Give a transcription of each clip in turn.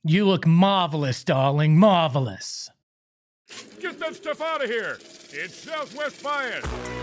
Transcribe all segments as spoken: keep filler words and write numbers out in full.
You look marvelous, darling, marvelous. Get that stuff out of here. It's Southwest Bias.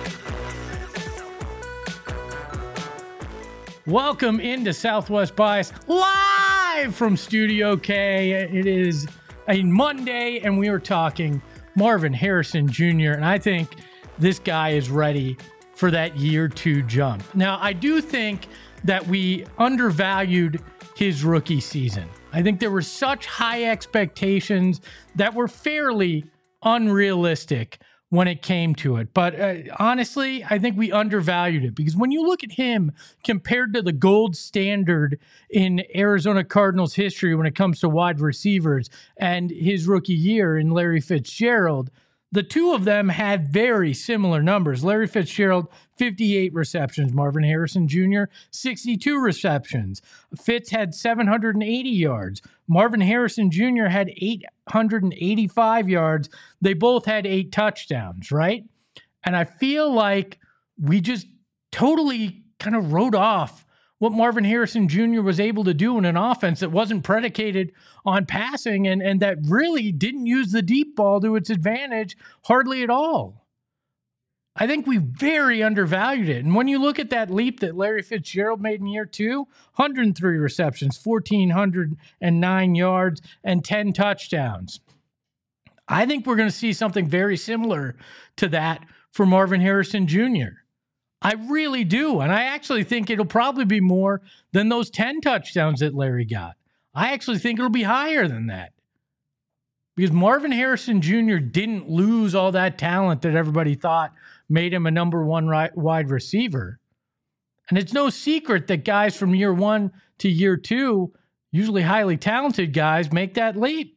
Welcome into Southwest Bias, live from Studio K. It is a Monday, and we are talking Marvin Harrison Junior, and I think this guy is ready for that year two jump. Now, I do think that we undervalued his rookie season. I think there were such high expectations that were fairly unrealistic when it came to it. But uh, honestly, I think we undervalued it, because when you look at him compared to the gold standard in Arizona Cardinals history when it comes to wide receivers and his rookie year in Larry Fitzgerald, the two of them had very similar numbers. Larry Fitzgerald, fifty-eight receptions. Marvin Harrison Junior, sixty-two receptions. Fitz had seven hundred eighty yards. Marvin Harrison Junior had eight hundred eighty-five yards. They both had eight touchdowns, right? And I feel like we just totally kind of wrote off what Marvin Harrison Junior was able to do in an offense that wasn't predicated on passing and, and that really didn't use the deep ball to its advantage hardly at all. I think we very undervalued it. And when you look at that leap that Larry Fitzgerald made in year two, one hundred three receptions, one thousand four hundred nine yards, and ten touchdowns. I think we're going to see something very similar to that for Marvin Harrison Junior I really do. And I actually think it'll probably be more than those ten touchdowns that Larry got. I actually think it'll be higher than that, because Marvin Harrison Junior didn't lose all that talent that everybody thought made him a number one right, wide receiver. And it's no secret that guys from year one to year two, usually highly talented guys, make that leap.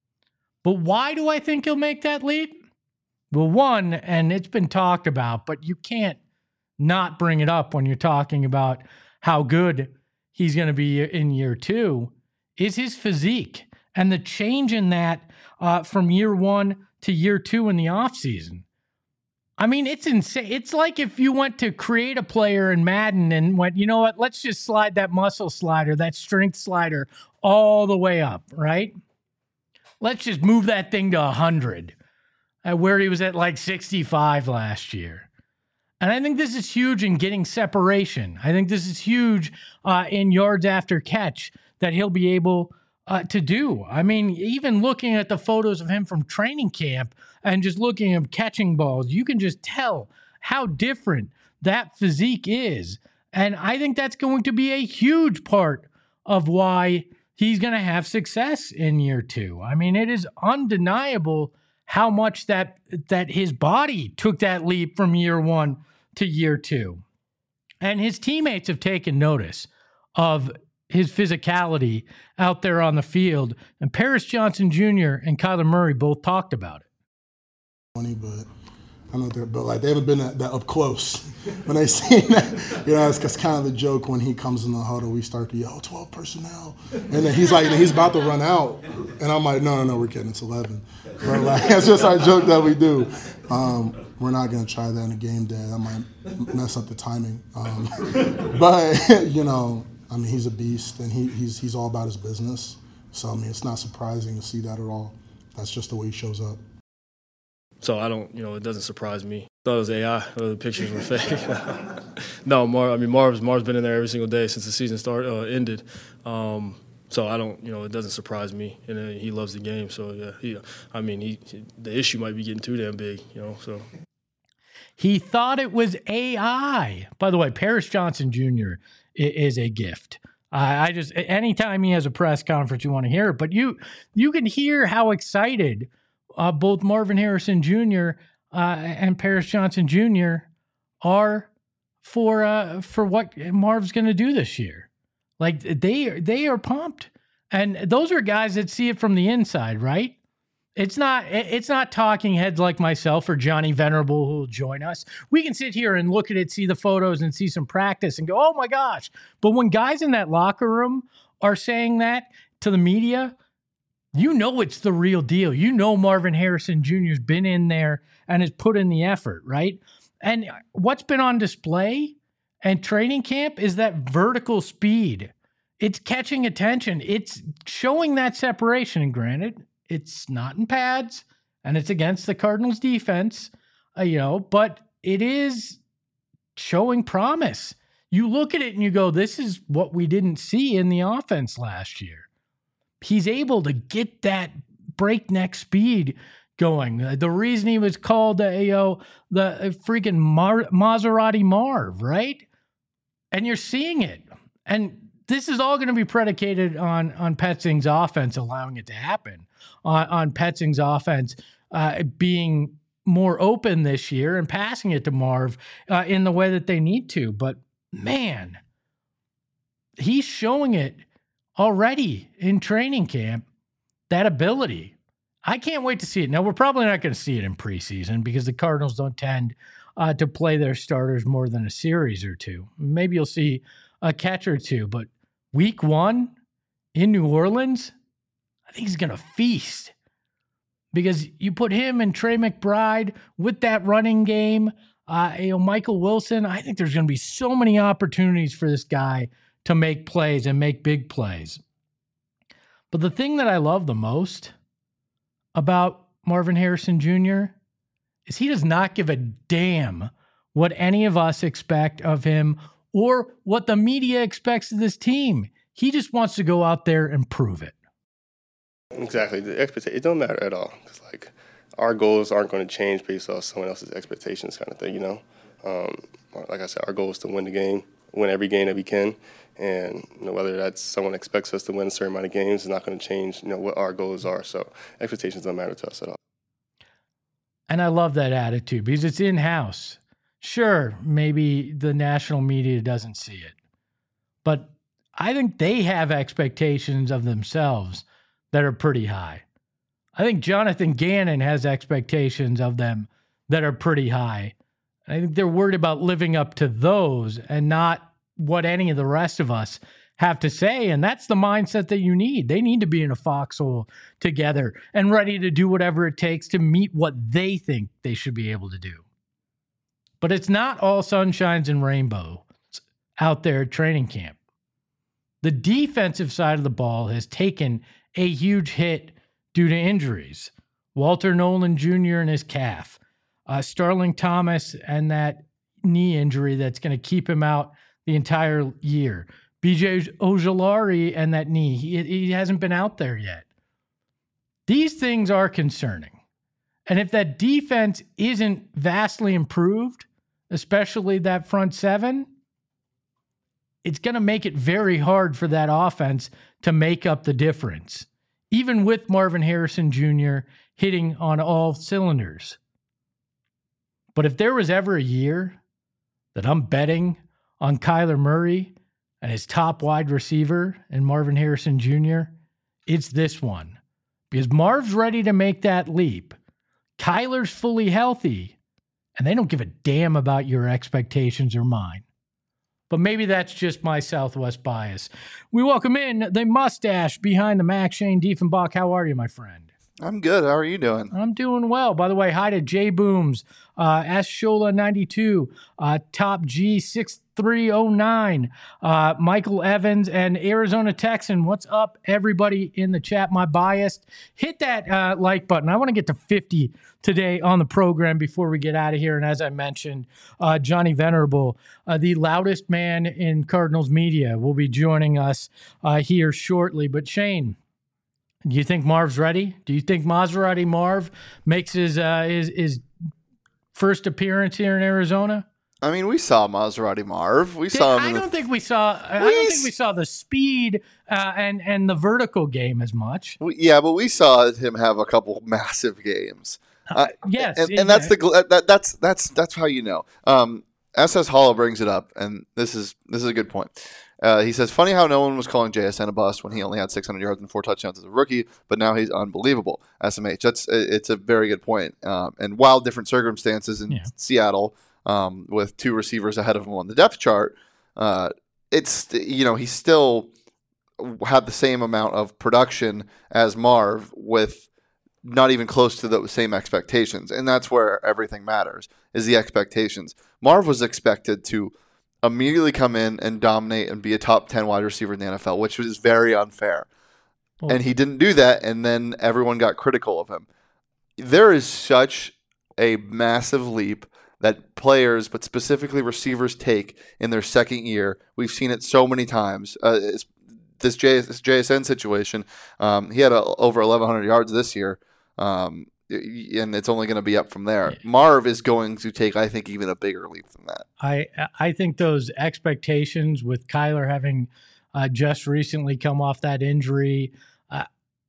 But why do I think he'll make that leap? Well, one, and it's been talked about, but you can't not bring it up when you're talking about how good he's going to be in year two, is his physique and the change in that uh, from year one to year two in the offseason. I mean, it's insane. It's like if you went to create a player in Madden and went, you know what, let's just slide that muscle slider, that strength slider all the way up, right? Let's just move that thing to one hundred, uh, where he was at like sixty-five last year. And I think this is huge in getting separation. I think this is huge uh, in yards after catch that he'll be able uh, to do. I mean, even looking at the photos of him from training camp and just looking at him catching balls, you can just tell how different that physique is. And I think that's going to be a huge part of why he's going to have success in year two. I mean, it is undeniable how much that that his body took that leap from year one to year two. And his teammates have taken notice of his physicality out there on the field. And Paris Johnson Junior and Kyler Murray both talked about it. Funny, but I don't know they're but like they haven't been that, that up close when they seen that. You know, it's, it's kind of the joke when he comes in the huddle, we start to yell twelve personnel, and then he's like, he's about to run out, and I'm like, no, no, no, we're kidding, it's eleven. But like, it's just our joke that we do. Um, we're not gonna try that in a game day. That might mess up the timing. Um, but you know, I mean, he's a beast, and he, he's he's all about his business. So I mean, it's not surprising to see that at all. That's just the way he shows up. So I don't, you know, it doesn't surprise me. I thought it was A I. The pictures were fake. no, Marv. I mean, Marv's Marv's been in there every single day since the season started uh, ended. Um, so I don't, you know, it doesn't surprise me. And uh, he loves the game. So yeah, he. I mean, he, he. The issue might be getting too damn big, you know. So he thought it was A I. By the way, Paris Johnson Junior is a gift. I, I just anytime he has a press conference, you want to hear it. But you you can hear how excited Uh, both Marvin Harrison Junior Uh, and Paris Johnson Junior are for uh, for what Marv's going to do this year. Like they they are pumped, and those are guys that see it from the inside, right? It's not it's not talking heads like myself or Johnny Venerable who will join us. We can sit here and look at it, see the photos, and see some practice, and go, "Oh my gosh!" But when guys in that locker room are saying that to the media, you know it's the real deal. You know Marvin Harrison Junior's been in there and has put in the effort, right? And what's been on display and training camp is that vertical speed it's catching attention. It's showing that separation. And granted, it's not in pads and it's against the Cardinals defense, uh, you know, but it is showing promise. You look at it and you go, this is what we didn't see in the offense last year. He's able to get that breakneck speed going. The reason he was called, uh, you know, the freaking Mar- Maserati Marv, right? And you're seeing it. And this is all going to be predicated on, on Petzing's offense allowing it to happen, on, on Petzing's offense uh, being more open this year and passing it to Marv uh, in the way that they need to. But man, he's showing it already in training camp, that ability. I can't wait to see it. Now, we're probably not going to see it in preseason because the Cardinals don't tend uh, to play their starters more than a series or two. Maybe you'll see a catch or two, but week one in New Orleans, I think he's going to feast because you put him and Trey McBride with that running game, uh, you know, Michael Wilson. I think there's going to be so many opportunities for this guy to make plays and make big plays. But the thing that I love the most about Marvin Harrison Junior is he does not give a damn what any of us expect of him or what the media expects of this team. He just wants to go out there and prove it. Exactly. The expectation, it don't matter at all. It's like our goals aren't going to change based off someone else's expectations kind of thing, you know? Um, like I said, our goal is to win the game, win every game that we can. And you know, whether that's someone expects us to win a certain amount of games is not going to change, you know, what our goals are. So expectations don't matter to us at all. And I love that attitude because it's in-house. Sure, maybe the national media doesn't see it, but I think they have expectations of themselves that are pretty high. I think Jonathan Gannon has expectations of them that are pretty high. I think they're worried about living up to those and not what any of the rest of us have to say. And that's the mindset that you need. They need to be in a foxhole together and ready to do whatever it takes to meet what they think they should be able to do. But it's not all sunshines and rainbows out there at training camp. The defensive side of the ball has taken a huge hit due to injuries. Walter Nolan Junior and his calf, uh, Starling Thomas and that knee injury that's going to keep him out the entire year. B J Ojulari and that knee, he, he hasn't been out there yet. These things are concerning. And if that defense isn't vastly improved, especially that front seven, it's going to make it very hard for that offense to make up the difference, even with Marvin Harrison Junior hitting on all cylinders. But if there was ever a year that I'm betting on Kyler Murray and his top wide receiver and Marvin Harrison Junior, it's this one. Because Marv's ready to make that leap. Kyler's fully healthy, and they don't give a damn about your expectations or mine. But maybe that's just my Southwest bias. We welcome in the mustache behind the Mac, Shane Diefenbach. How are you, my friend? I'm good. How are you doing? I'm doing well. By the way, hi to J Booms, uh, S Shola ninety-two, uh, Top G six three oh nine, uh, Michael Evans, and Arizona Texan. What's up, everybody in the chat? My bias. Hit that uh, like button. I want to get to fifty today on the program before we get out of here. And as I mentioned, uh, Johnny Venerable, uh, the loudest man in Cardinals media, will be joining us uh, here shortly. But Shane, do you think Marv's ready? Do you think Maserati Marv makes his uh, his, his first appearance here in Arizona? I mean, we saw Maserati Marv. We saw him. I in don't the... think we saw. I We don't think we saw the speed uh, and and the vertical game as much. We, yeah, but we saw him have a couple massive games. Uh, yes, and, yeah. and that's the gl- that, that's that's that's how you know. Um, S S Hollow brings it up, and this is this is a good point. Uh, he says, funny how no one was calling J S N a bust when he only had six hundred yards and four touchdowns as a rookie, but now he's unbelievable. S M H, that's it's a very good point. Um, and while different circumstances in yeah. Seattle, um, with two receivers ahead of him on the depth chart, uh, it's you know he still had the same amount of production as Marv with not even close to the same expectations, and that's where everything matters is the expectations. Marv was expected to immediately come in and dominate and be a top ten wide receiver in the N F L, which was very unfair. Well, and he didn't do that, and then everyone got critical of him. There is such a massive leap that players, but specifically receivers, take in their second year. We've seen it so many times. Uh, it's, this, J, this J S N situation, um, he had a, over eleven hundred yards this year, um, and it's only going to be up from there. Yeah. Marv is going to take, I think, even a bigger leap than that. I I think those expectations with Kyler having uh, just recently come off that injury, uh,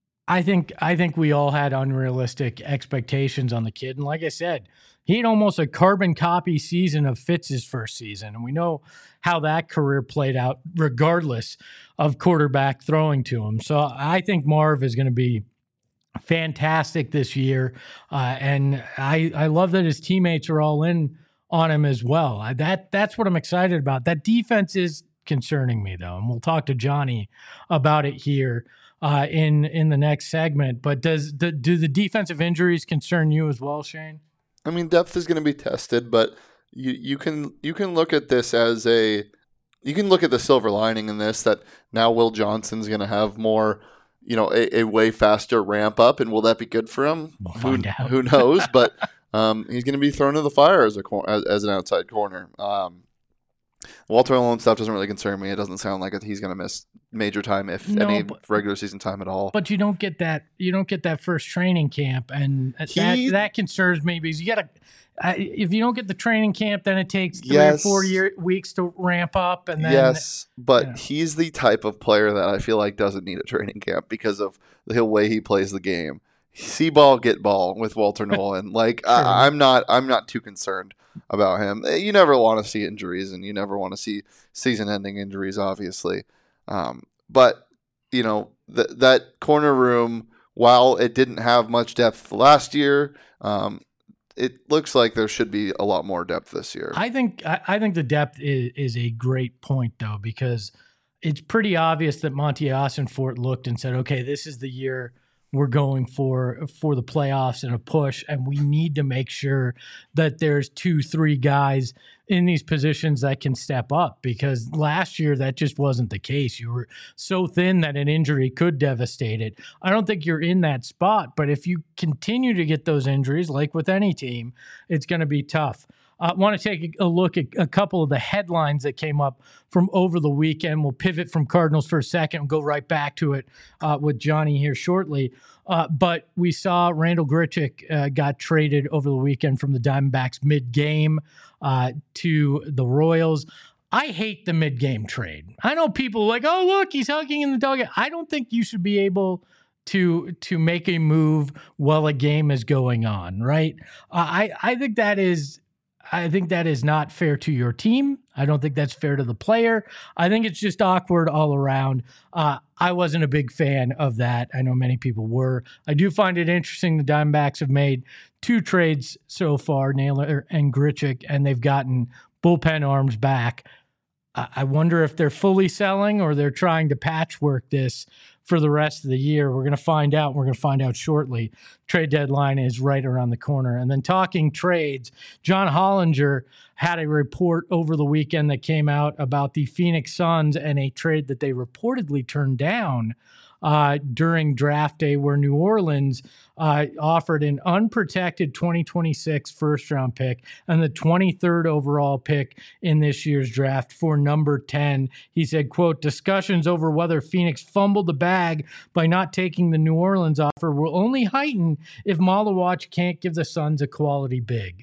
I think I think we all had unrealistic expectations on the kid. And like I said, he had almost a carbon copy season of Fitz's first season, and we know how that career played out, regardless of quarterback throwing to him. So I think Marv is going to be fantastic this year, uh, and I I love that his teammates are all in on him as well. I, that that's what I'm excited about. That defense is concerning me though, and we'll talk to Johnny about it here uh, in in the next segment. But does the, do the defensive injuries concern you as well, Shane? I mean, depth is going to be tested, but you you can you can look at this as a you can look at the silver lining in this, that now Will Johnson's going to have more, you know, a, a way faster ramp up, and will that be good for him? We'll who, find out. who knows? But um, he's going to be thrown to the fire as a cor- as, as an outside corner. Um, Walter Malone stuff doesn't really concern me. It doesn't sound like he's going to miss major time, if No, any but- regular season time at all. But you don't get that. You don't get that first training camp, and that He- that concerns me because you got to. Uh, if you don't get the training camp, then it takes three Yes. or four year, weeks to ramp up, and then Yes, but yeah. he's the type of player that I feel like doesn't need a training camp because of the way he plays the game. See ball, get ball with Walter Nolan. Like Sure. I, I'm not, I'm not too concerned about him. You never want to see injuries, and you never want to see season-ending injuries, obviously. Um, but you know th- that corner room, while it didn't have much depth last year, um, it looks like there should be a lot more depth this year. I think I, I think the depth is, is a great point though, because it's pretty obvious that Monty Ossenfort looked and said, "Okay, this is the year we're going for for the playoffs and a push, and we need to make sure that there's two, three guys in these positions that can step up, because last year that just wasn't the case. You were so thin that an injury could devastate it. I don't think you're in that spot, but if you continue to get those injuries, like with any team, it's going to be tough. I uh, want to take a look at a couple of the headlines that came up from over the weekend. We'll pivot from Cardinals for a second and go right back to it uh, with Johnny here shortly. Uh, but we saw Randall Grichuk uh, got traded over the weekend from the Diamondbacks mid-game uh, to the Royals. I hate the mid-game trade. I know people are like, oh, look, he's hugging in the dugout. I don't think you should be able to to make a move while a game is going on, right? Uh, I, I think that is... I think that is not fair to your team. I don't think that's fair to the player. I think it's just awkward all around. Uh, I wasn't a big fan of that. I know many people were. I do find it interesting the Diamondbacks have made two trades so far, Naylor and Grichuk, and they've gotten bullpen arms back. I, I wonder if they're fully selling or they're trying to patchwork this for the rest of the year. We're going to find out. We're going to find out shortly. Trade deadline is right around the corner. And then talking trades, John Hollinger had a report over the weekend that came out about the Phoenix Suns and a trade that they reportedly turned down uh, during draft day, where New Orleans uh, offered an unprotected twenty twenty-six first round pick and the twenty-third overall pick in this year's draft for number ten. He said, quote, discussions over whether Phoenix fumbled the bag by not taking the New Orleans offer will only heighten if Malawach can't give the Suns a quality big.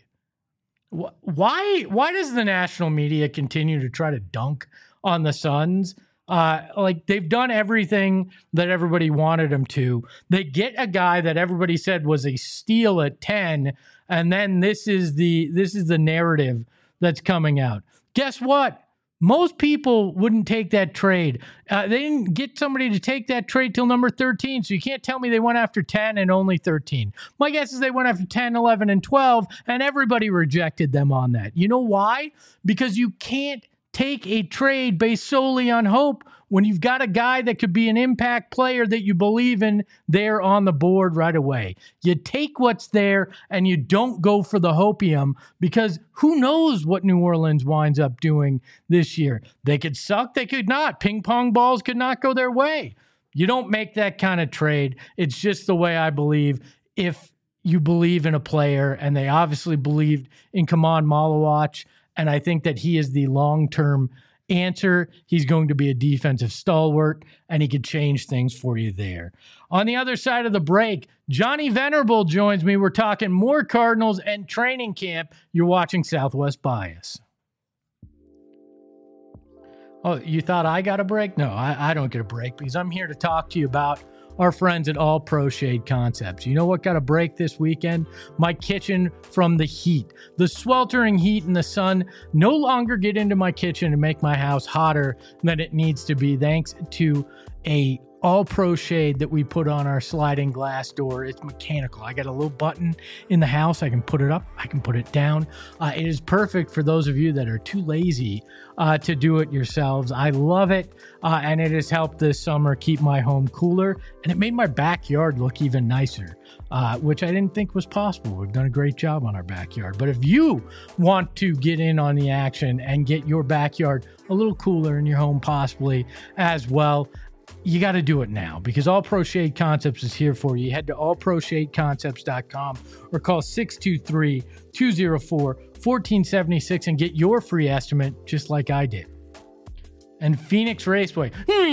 Why, why does the national media continue to try to dunk on the Suns? Uh, like they've done everything that everybody wanted them to. They get a guy that everybody said was a steal at ten, and then this is the this is the narrative that's coming out. Guess what? Most people wouldn't take that trade. Uh, they didn't get somebody to take that trade till number thirteen, so you can't tell me they went after ten and only thirteen. My guess is they went after ten, eleven, and twelve, and everybody rejected them on that. You know why? Because you can't take a trade based solely on hope when you've got a guy that could be an impact player that you believe in there on the board right away. You take what's there and you don't go for the hopium, because who knows what New Orleans winds up doing this year. They could suck, they could not. Ping pong balls could not go their way. You don't make that kind of trade. It's just the way I believe. If you believe in a player, and they obviously believed in Kaman Malawach, and I think that he is the long-term answer. He's going to be a defensive stalwart, and he could change things for you there. On the other side of the break, Johnny Venerable joins me. We're talking more Cardinals and training camp. You're watching Southwest Bias. Oh, you thought I got a break? No, I, I don't get a break, because I'm here to talk to you about our friends at All Pro Shade Concepts. You know what got a break this weekend? My kitchen from the heat. The sweltering heat and the sun no longer get into my kitchen and make my house hotter than it needs to be, thanks to a All Pro Shade that we put on our sliding glass door. It's mechanical. I got a little button in the house. I can put it up. I can put it down. Uh, it is perfect for those of you that are too lazy uh, to do it yourselves. I love it, uh, and it has helped this summer keep my home cooler, and it made my backyard look even nicer, uh, which I didn't think was possible. We've done a great job on our backyard. But if you want to get in on the action and get your backyard a little cooler in your home possibly as well, you got to do it now, because All Pro Shade Concepts is here for you. Head to all pro shade concepts dot com or call six two three, two oh four, one four seven six and get your free estimate just like I did. And Phoenix Raceway.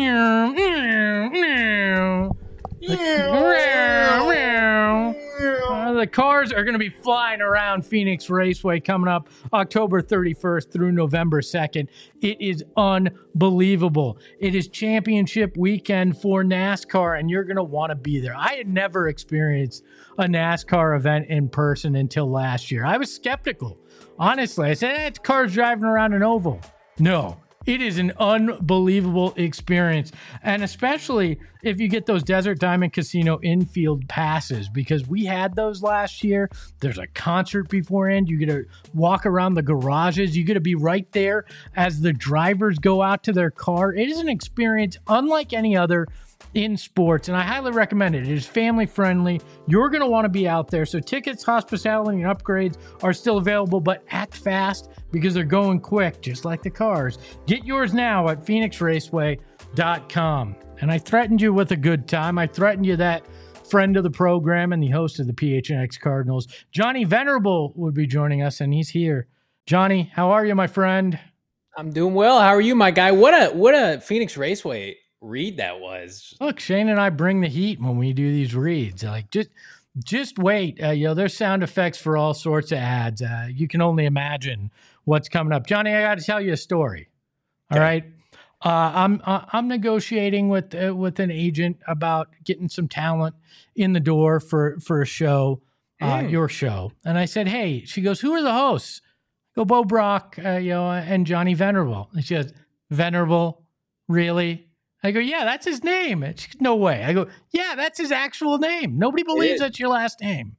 Uh, the cars are going to be flying around Phoenix Raceway coming up October thirty-first through November second. It is unbelievable. It is championship weekend for NASCAR, and you're going to want to be there. I had never experienced a NASCAR event in person until last year. I was skeptical. Honestly, I said, eh, it's cars driving around an oval. No. It is an unbelievable experience, and especially if you get those Desert Diamond Casino infield passes, because we had those last year. There's a concert beforehand. You get to walk around the garages. You get to be right there as the drivers go out to their car. It is an experience unlike any other in sports, and I highly recommend it. It is family friendly. You're going to want to be out there. So tickets, hospitality, and upgrades are still available, but act fast because they're going quick, just like the cars. Get yours now at phoenix raceway dot com. And I threatened you with a good time. I threatened you that friend of the program and the host of the P H N X Cardinals, Johnny Venerable, would be joining us, and he's here. Johnny, how are you, my friend? I'm doing well. How are you, my guy? What a what a Phoenix Raceway read that was. Look, Shane and I bring the heat when we do these reads. Like, just just wait. Uh, you know, there's sound effects for all sorts of ads. Uh, you can only imagine what's coming up. Johnny, I got to tell you a story. All okay. right. Uh, I'm uh, I'm negotiating with uh, with an agent about getting some talent in the door for for a show, uh, mm. your show. And I said, hey, she goes, who are the hosts? I go, Bo Brock, uh, you know, and Johnny Venerable. And she goes, Venerable, really? I go, yeah, that's his name. She goes, no way. I go, yeah, that's his actual name. Nobody believes that's your last name.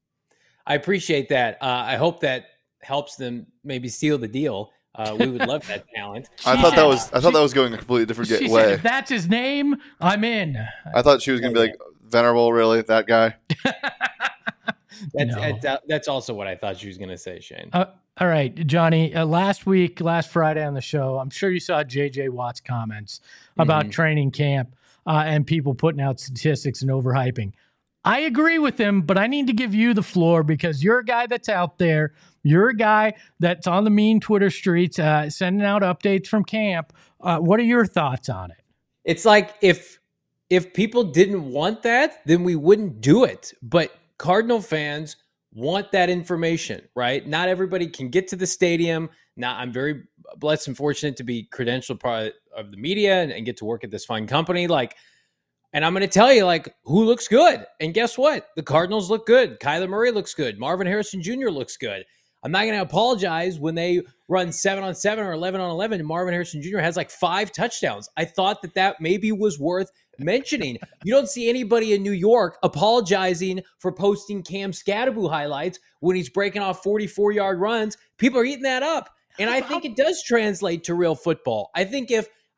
I appreciate that. Uh, I hope that helps them maybe seal the deal. Uh, we would love that talent. I thought that was I thought she, that was going a completely different she way. Said, if that's his name, I'm in. I thought she was going to be like, Venerable, really? That guy? that's, no. that's, that's also what I thought she was going to say, Shane. Uh, all right, Johnny, uh, last week, last Friday on the show, I'm sure you saw J J Watt's comments about mm-hmm. training camp uh, and people putting out statistics and overhyping. I agree with him, but I need to give you the floor because you're a guy that's out there. You're a guy that's on the mean Twitter streets, uh, sending out updates from camp. Uh, what are your thoughts on it? It's like if if people didn't want that, then we wouldn't do it. But Cardinal fans want that information, right? Not everybody can get to the stadium. Now, I'm very blessed and fortunate to be credentialed part of the media and, and get to work at this fine company. Like, and I'm going to tell you, like, who looks good. And guess what? The Cardinals look good. Kyler Murray looks good. Marvin Harrison Junior looks good. I'm not going to apologize when they run seven on seven or eleven on eleven and Marvin Harrison Junior has like five touchdowns. I thought that that maybe was worth mentioning. You don't see anybody in New York apologizing for posting Cam Scatteraboo highlights when he's breaking off forty-four-yard runs. People are eating that up. And I think it does translate to real football. I think if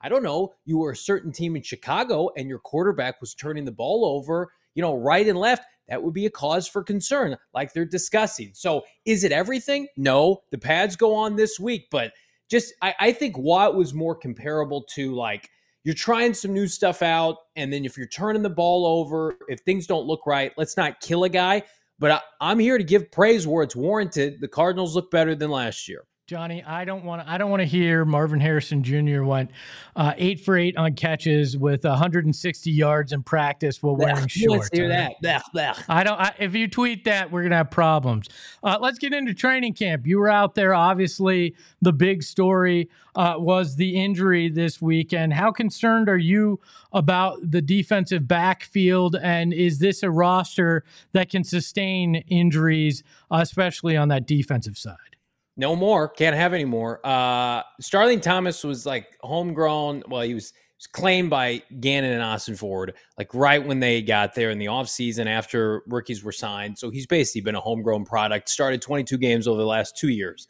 I don't know, you were a certain team in Chicago and your quarterback was turning the ball over, you know, right and left, that would be a cause for concern, like they're discussing. So is it everything? No. The pads go on this week, but just I, I think Watt was more comparable to like you're trying some new stuff out, and then if you're turning the ball over, if things don't look right, let's not kill a guy. But I, I'm here to give praise where it's warranted. The Cardinals look better than last year. Johnny, I don't want to. I don't want to hear Marvin Harrison Junior went uh, eight for eight on catches with one hundred sixty yards in practice while wearing shorts. Let's hear that. Blech, blech. I don't. I, if you tweet that, we're gonna have problems. Uh, let's get into training camp. You were out there. Obviously, the big story uh, was the injury this weekend. How concerned are you about the defensive backfield, and is this a roster that can sustain injuries, uh, especially on that defensive side? No more. Can't have any more. Uh, Starling Thomas was like homegrown. Well, he was, he was claimed by Gannon and Austin Ford, like right when they got there in the offseason after rookies were signed. So he's basically been a homegrown product, started twenty-two games over the last two years.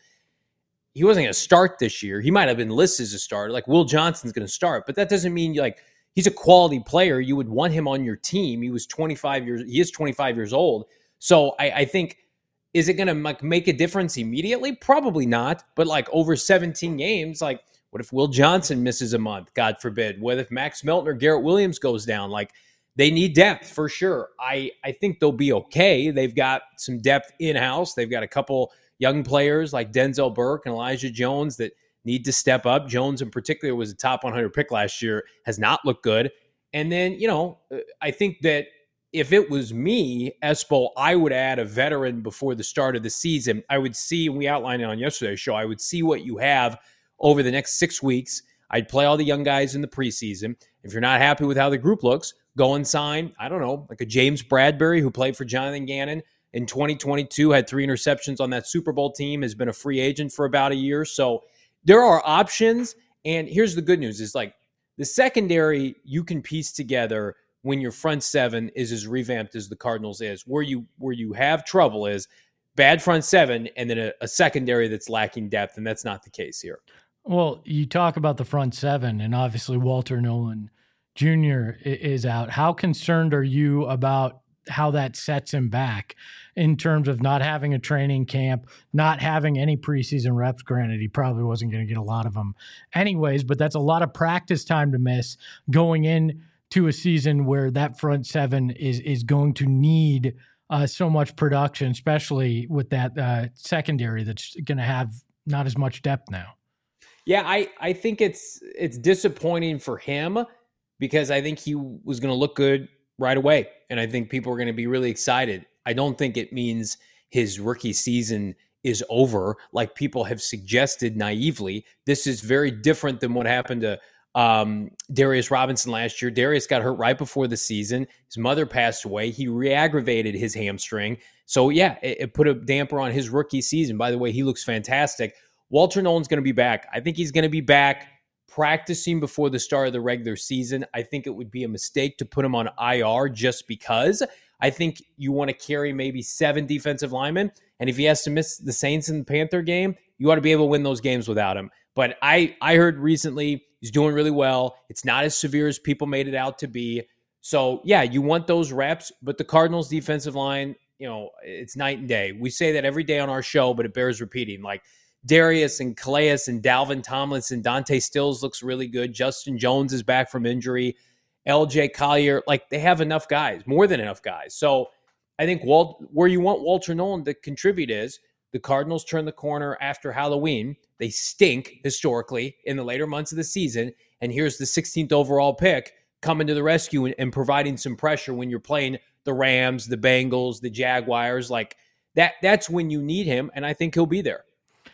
He wasn't going to start this year. He might have been listed as a starter. Like Will Johnson's going to start, but that doesn't mean like he's a quality player. You would want him on your team. He was twenty-five years. He is twenty-five years old. So I, I think, is it going to like make a difference immediately? Probably not. But like over seventeen games, like what if Will Johnson misses a month? God forbid. What if Max Melton or Garrett Williams goes down? Like they need depth for sure. I, I think they'll be okay. They've got some depth in-house. They've got a couple young players like Denzel Burke and Elijah Jones that need to step up. Jones in particular was a top one hundred pick last year, has not looked good. And then, you know, I think that if it was me, Espo, I would add a veteran before the start of the season. I would see, and we outlined it on yesterday's show, I would see what you have over the next six weeks. I'd play all the young guys in the preseason. If you're not happy with how the group looks, go and sign, I don't know, like a James Bradbury who played for Jonathan Gannon in twenty twenty-two, had three interceptions on that Super Bowl team, has been a free agent for about a year. So there are options. And here's the good news is like the secondary you can piece together when your front seven is as revamped as the Cardinals is. Where you where you have trouble is bad front seven and then a, a secondary that's lacking depth, and that's not the case here. Well, you talk about the front seven, and obviously Walter Nolan Junior is out. How concerned are you about how that sets him back in terms of not having a training camp, not having any preseason reps? Granted, he probably wasn't going to get a lot of them anyways, but that's a lot of practice time to miss going in to a season where that front seven is is going to need uh, so much production, especially with that uh, secondary that's going to have not as much depth now. Yeah, I, I think it's it's disappointing for him because I think he was going to look good right away, and I think people are going to be really excited. I don't think it means his rookie season is over, like people have suggested naively. This is very different than what happened to Um, Darius Robinson last year. Darius got hurt right before the season. His mother passed away. He re-aggravated his hamstring. So yeah, it, it put a damper on his rookie season. By the way, he looks fantastic. Walter Nolan's going to be back. I think he's going to be back practicing before the start of the regular season. I think it would be a mistake to put him on I R just because. I think you want to carry maybe seven defensive linemen. And if he has to miss the Saints and the Panther game, you ought to be able to win those games without him. But I, I heard recently he's doing really well. It's not as severe as people made it out to be. So, yeah, you want those reps, but the Cardinals' defensive line, you know, it's night and day. We say that every day on our show, but it bears repeating. Like Darius and Calais and Dalvin Tomlinson, Dante Stills looks really good. Justin Jones is back from injury. L J Collier, like they have enough guys, more than enough guys. So I think Walt, where you want Walter Nolan to contribute is the Cardinals turn the corner after Halloween. They stink historically in the later months of the season. And here's the sixteenth overall pick coming to the rescue and, and providing some pressure when you're playing the Rams, the Bengals, the Jaguars. Like that, that's when you need him. And I think he'll be there.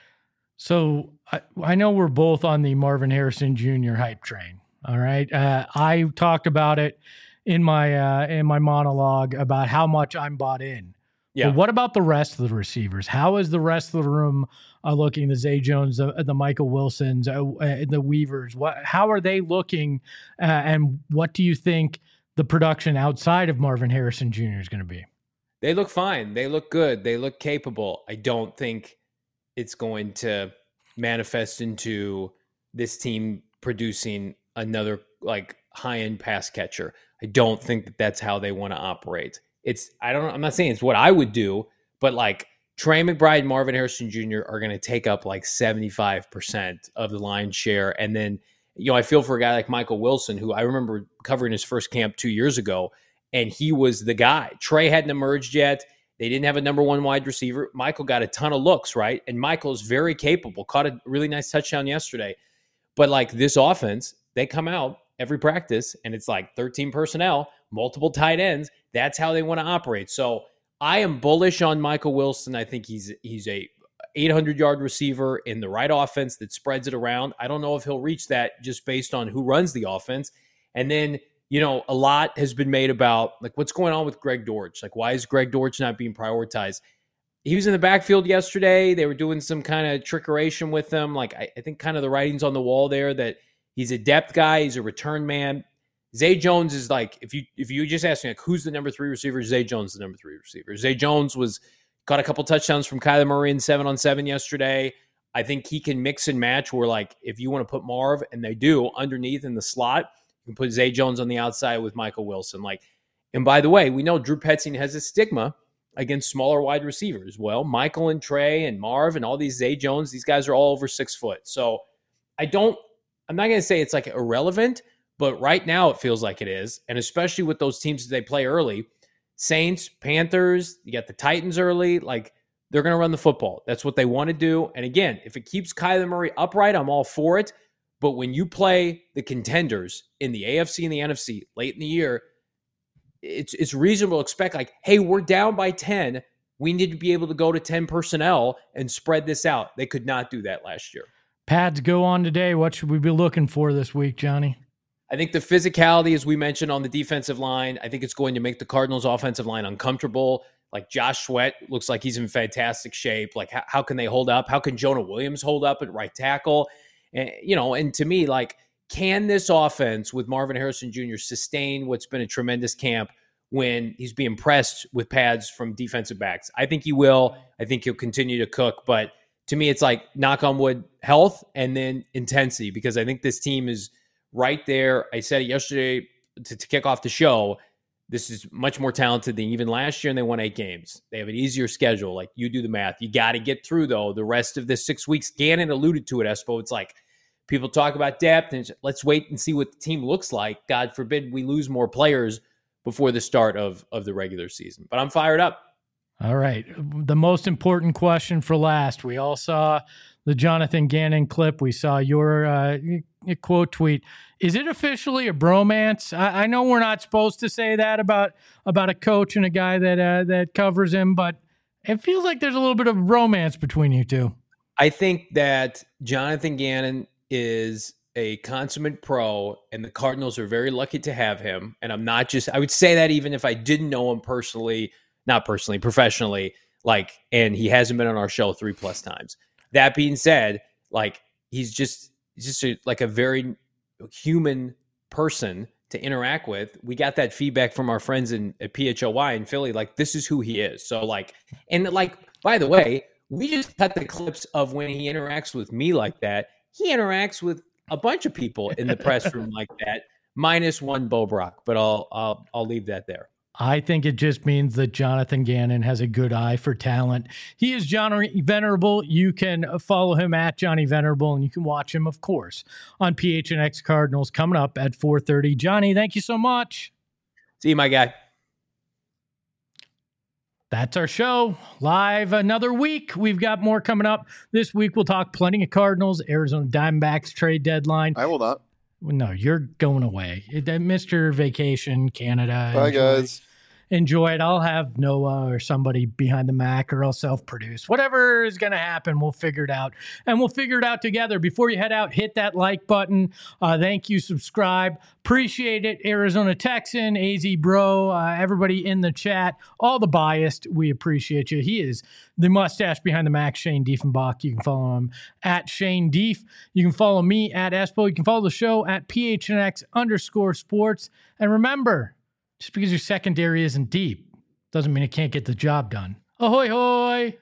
So I, I know we're both on the Marvin Harrison Junior hype train. All right. Uh, I talked about it in my, uh, in my monologue about how much I'm bought in. Yeah. But what about the rest of the receivers? How is the rest of the room uh, looking? The Zay Jones, the, the Michael Wilsons, uh, uh, the Weavers. What? How are they looking? Uh, and what do you think the production outside of Marvin Harrison Junior is going to be? They look fine. They look good. They look capable. I don't think it's going to manifest into this team producing another like high-end pass catcher. I don't think that that's how they want to operate. It's I don't I'm not saying it's what I would do, but like Trey McBride and Marvin Harrison Junior are going to take up like seventy-five percent of the lion's share. And then, you know, I feel for a guy like Michael Wilson, who I remember covering his first camp two years ago, and he was the guy. Trey hadn't emerged yet. They didn't have a number one wide receiver. Michael got a ton of looks, right? And Michael's very capable. Caught a really nice touchdown yesterday. But like this offense, they come out every practice, and it's like thirteen personnel, multiple tight ends. That's how they want to operate. So I am bullish on Michael Wilson. I think he's he's a eight hundred yard receiver in the right offense that spreads it around. I don't know if he'll reach that just based on who runs the offense. And then, you know, a lot has been made about like what's going on with Greg Dortch. Like, why is Greg Dortch not being prioritized? He was in the backfield yesterday. They were doing some kind of trickeration with him. Like, I, I think kind of the writing's on the wall there that he's a depth guy. He's a return man. Zay Jones is like, if you if you just ask me, like, who's the number three receiver? Zay Jones is the number three receiver. Zay Jones was got a couple touchdowns from Kyler Murray in seven on seven yesterday. I think he can mix and match where, like, if you want to put Marv, and they do, underneath in the slot, you can put Zay Jones on the outside with Michael Wilson. Like, and by the way, we know Drew Petzing has a stigma against smaller wide receivers. Well, Michael and Trey and Marv and all these Zay Jones, these guys are all over six foot. So I don't, I'm not going to say it's like irrelevant, but right now it feels like it is. And especially with those teams that they play early, Saints, Panthers, you got the Titans early, like they're going to run the football. That's what they want to do. And again, if it keeps Kyler Murray upright, I'm all for it. But when you play the contenders in the A F C and the N F C late in the year, it's it's reasonable to expect like, hey, we're down by ten. We need to be able to go to ten personnel and spread this out. They could not do that last year. Pads go on today. What should we be looking for this week, Johnny? I think the physicality, as we mentioned on the defensive line, I think it's going to make the Cardinals' offensive line uncomfortable. Like Josh Sweat looks like he's in fantastic shape. Like how, how can they hold up? How can Jonah Williams hold up at right tackle? And, you know, and to me, like, can this offense with Marvin Harrison Junior sustain what's been a tremendous camp when he's being pressed with pads from defensive backs? I think he will. I think he'll continue to cook. But to me, it's like knock on wood, health and then intensity, because I think this team is right there. I said it yesterday to, to kick off the show. This is much more talented than even last year, and they won eight games. They have an easier schedule. Like, you do the math. You got to get through, though, the rest of the six weeks. Gannon alluded to it, Espo. It's like people talk about depth, and let's wait and see what the team looks like. God forbid we lose more players before the start of, of the regular season. But I'm fired up. All right. The most important question for last. We all saw the Jonathan Gannon clip. We saw your uh, quote tweet. Is it officially a bromance? I, I know we're not supposed to say that about about a coach and a guy that uh, that covers him, but it feels like there's a little bit of romance between you two. I think that Jonathan Gannon is a consummate pro, and the Cardinals are very lucky to have him. And I'm not just, I would say that even if I didn't know him personally, not personally, professionally, like, and he hasn't been on our show three plus times. That being said, like, he's just, he's just a, like a very human person to interact with. We got that feedback from our friends in at P H O Y in Philly. Like, this is who he is. So like, and like, by the way, we just cut the clips of when he interacts with me like that. He interacts with a bunch of people in the press room like that, minus one Bo Brock, but I'll, I'll, I'll leave that there. I think it just means that Jonathan Gannon has a good eye for talent. He is Johnny Venerable. You can follow him at Johnny Venerable, and you can watch him, of course, on P H N X Cardinals coming up at four thirty. Johnny, thank you so much. See you, my guy. That's our show. Live another week. We've got more coming up. This week we'll talk plenty of Cardinals, Arizona Diamondbacks trade deadline. I will not. No, you're going away. Mister Vacation, Canada. Bye, enjoy, guys. Enjoy it. I'll have Noah or somebody behind the Mac, or I'll self-produce. Whatever is going to happen, we'll figure it out. And we'll figure it out together. Before you head out, hit that like button. Uh, thank you. Subscribe. Appreciate it. Arizona Texan, A Z Bro, uh, everybody in the chat, all the biased, we appreciate you. He is the mustache behind the Mac, Shane Diefenbach. You can follow him at Shane Dief. You can follow me at Espo. You can follow the show at P H N X underscore sports. And remember, just because your secondary isn't deep doesn't mean it can't get the job done. Ahoy, hoy!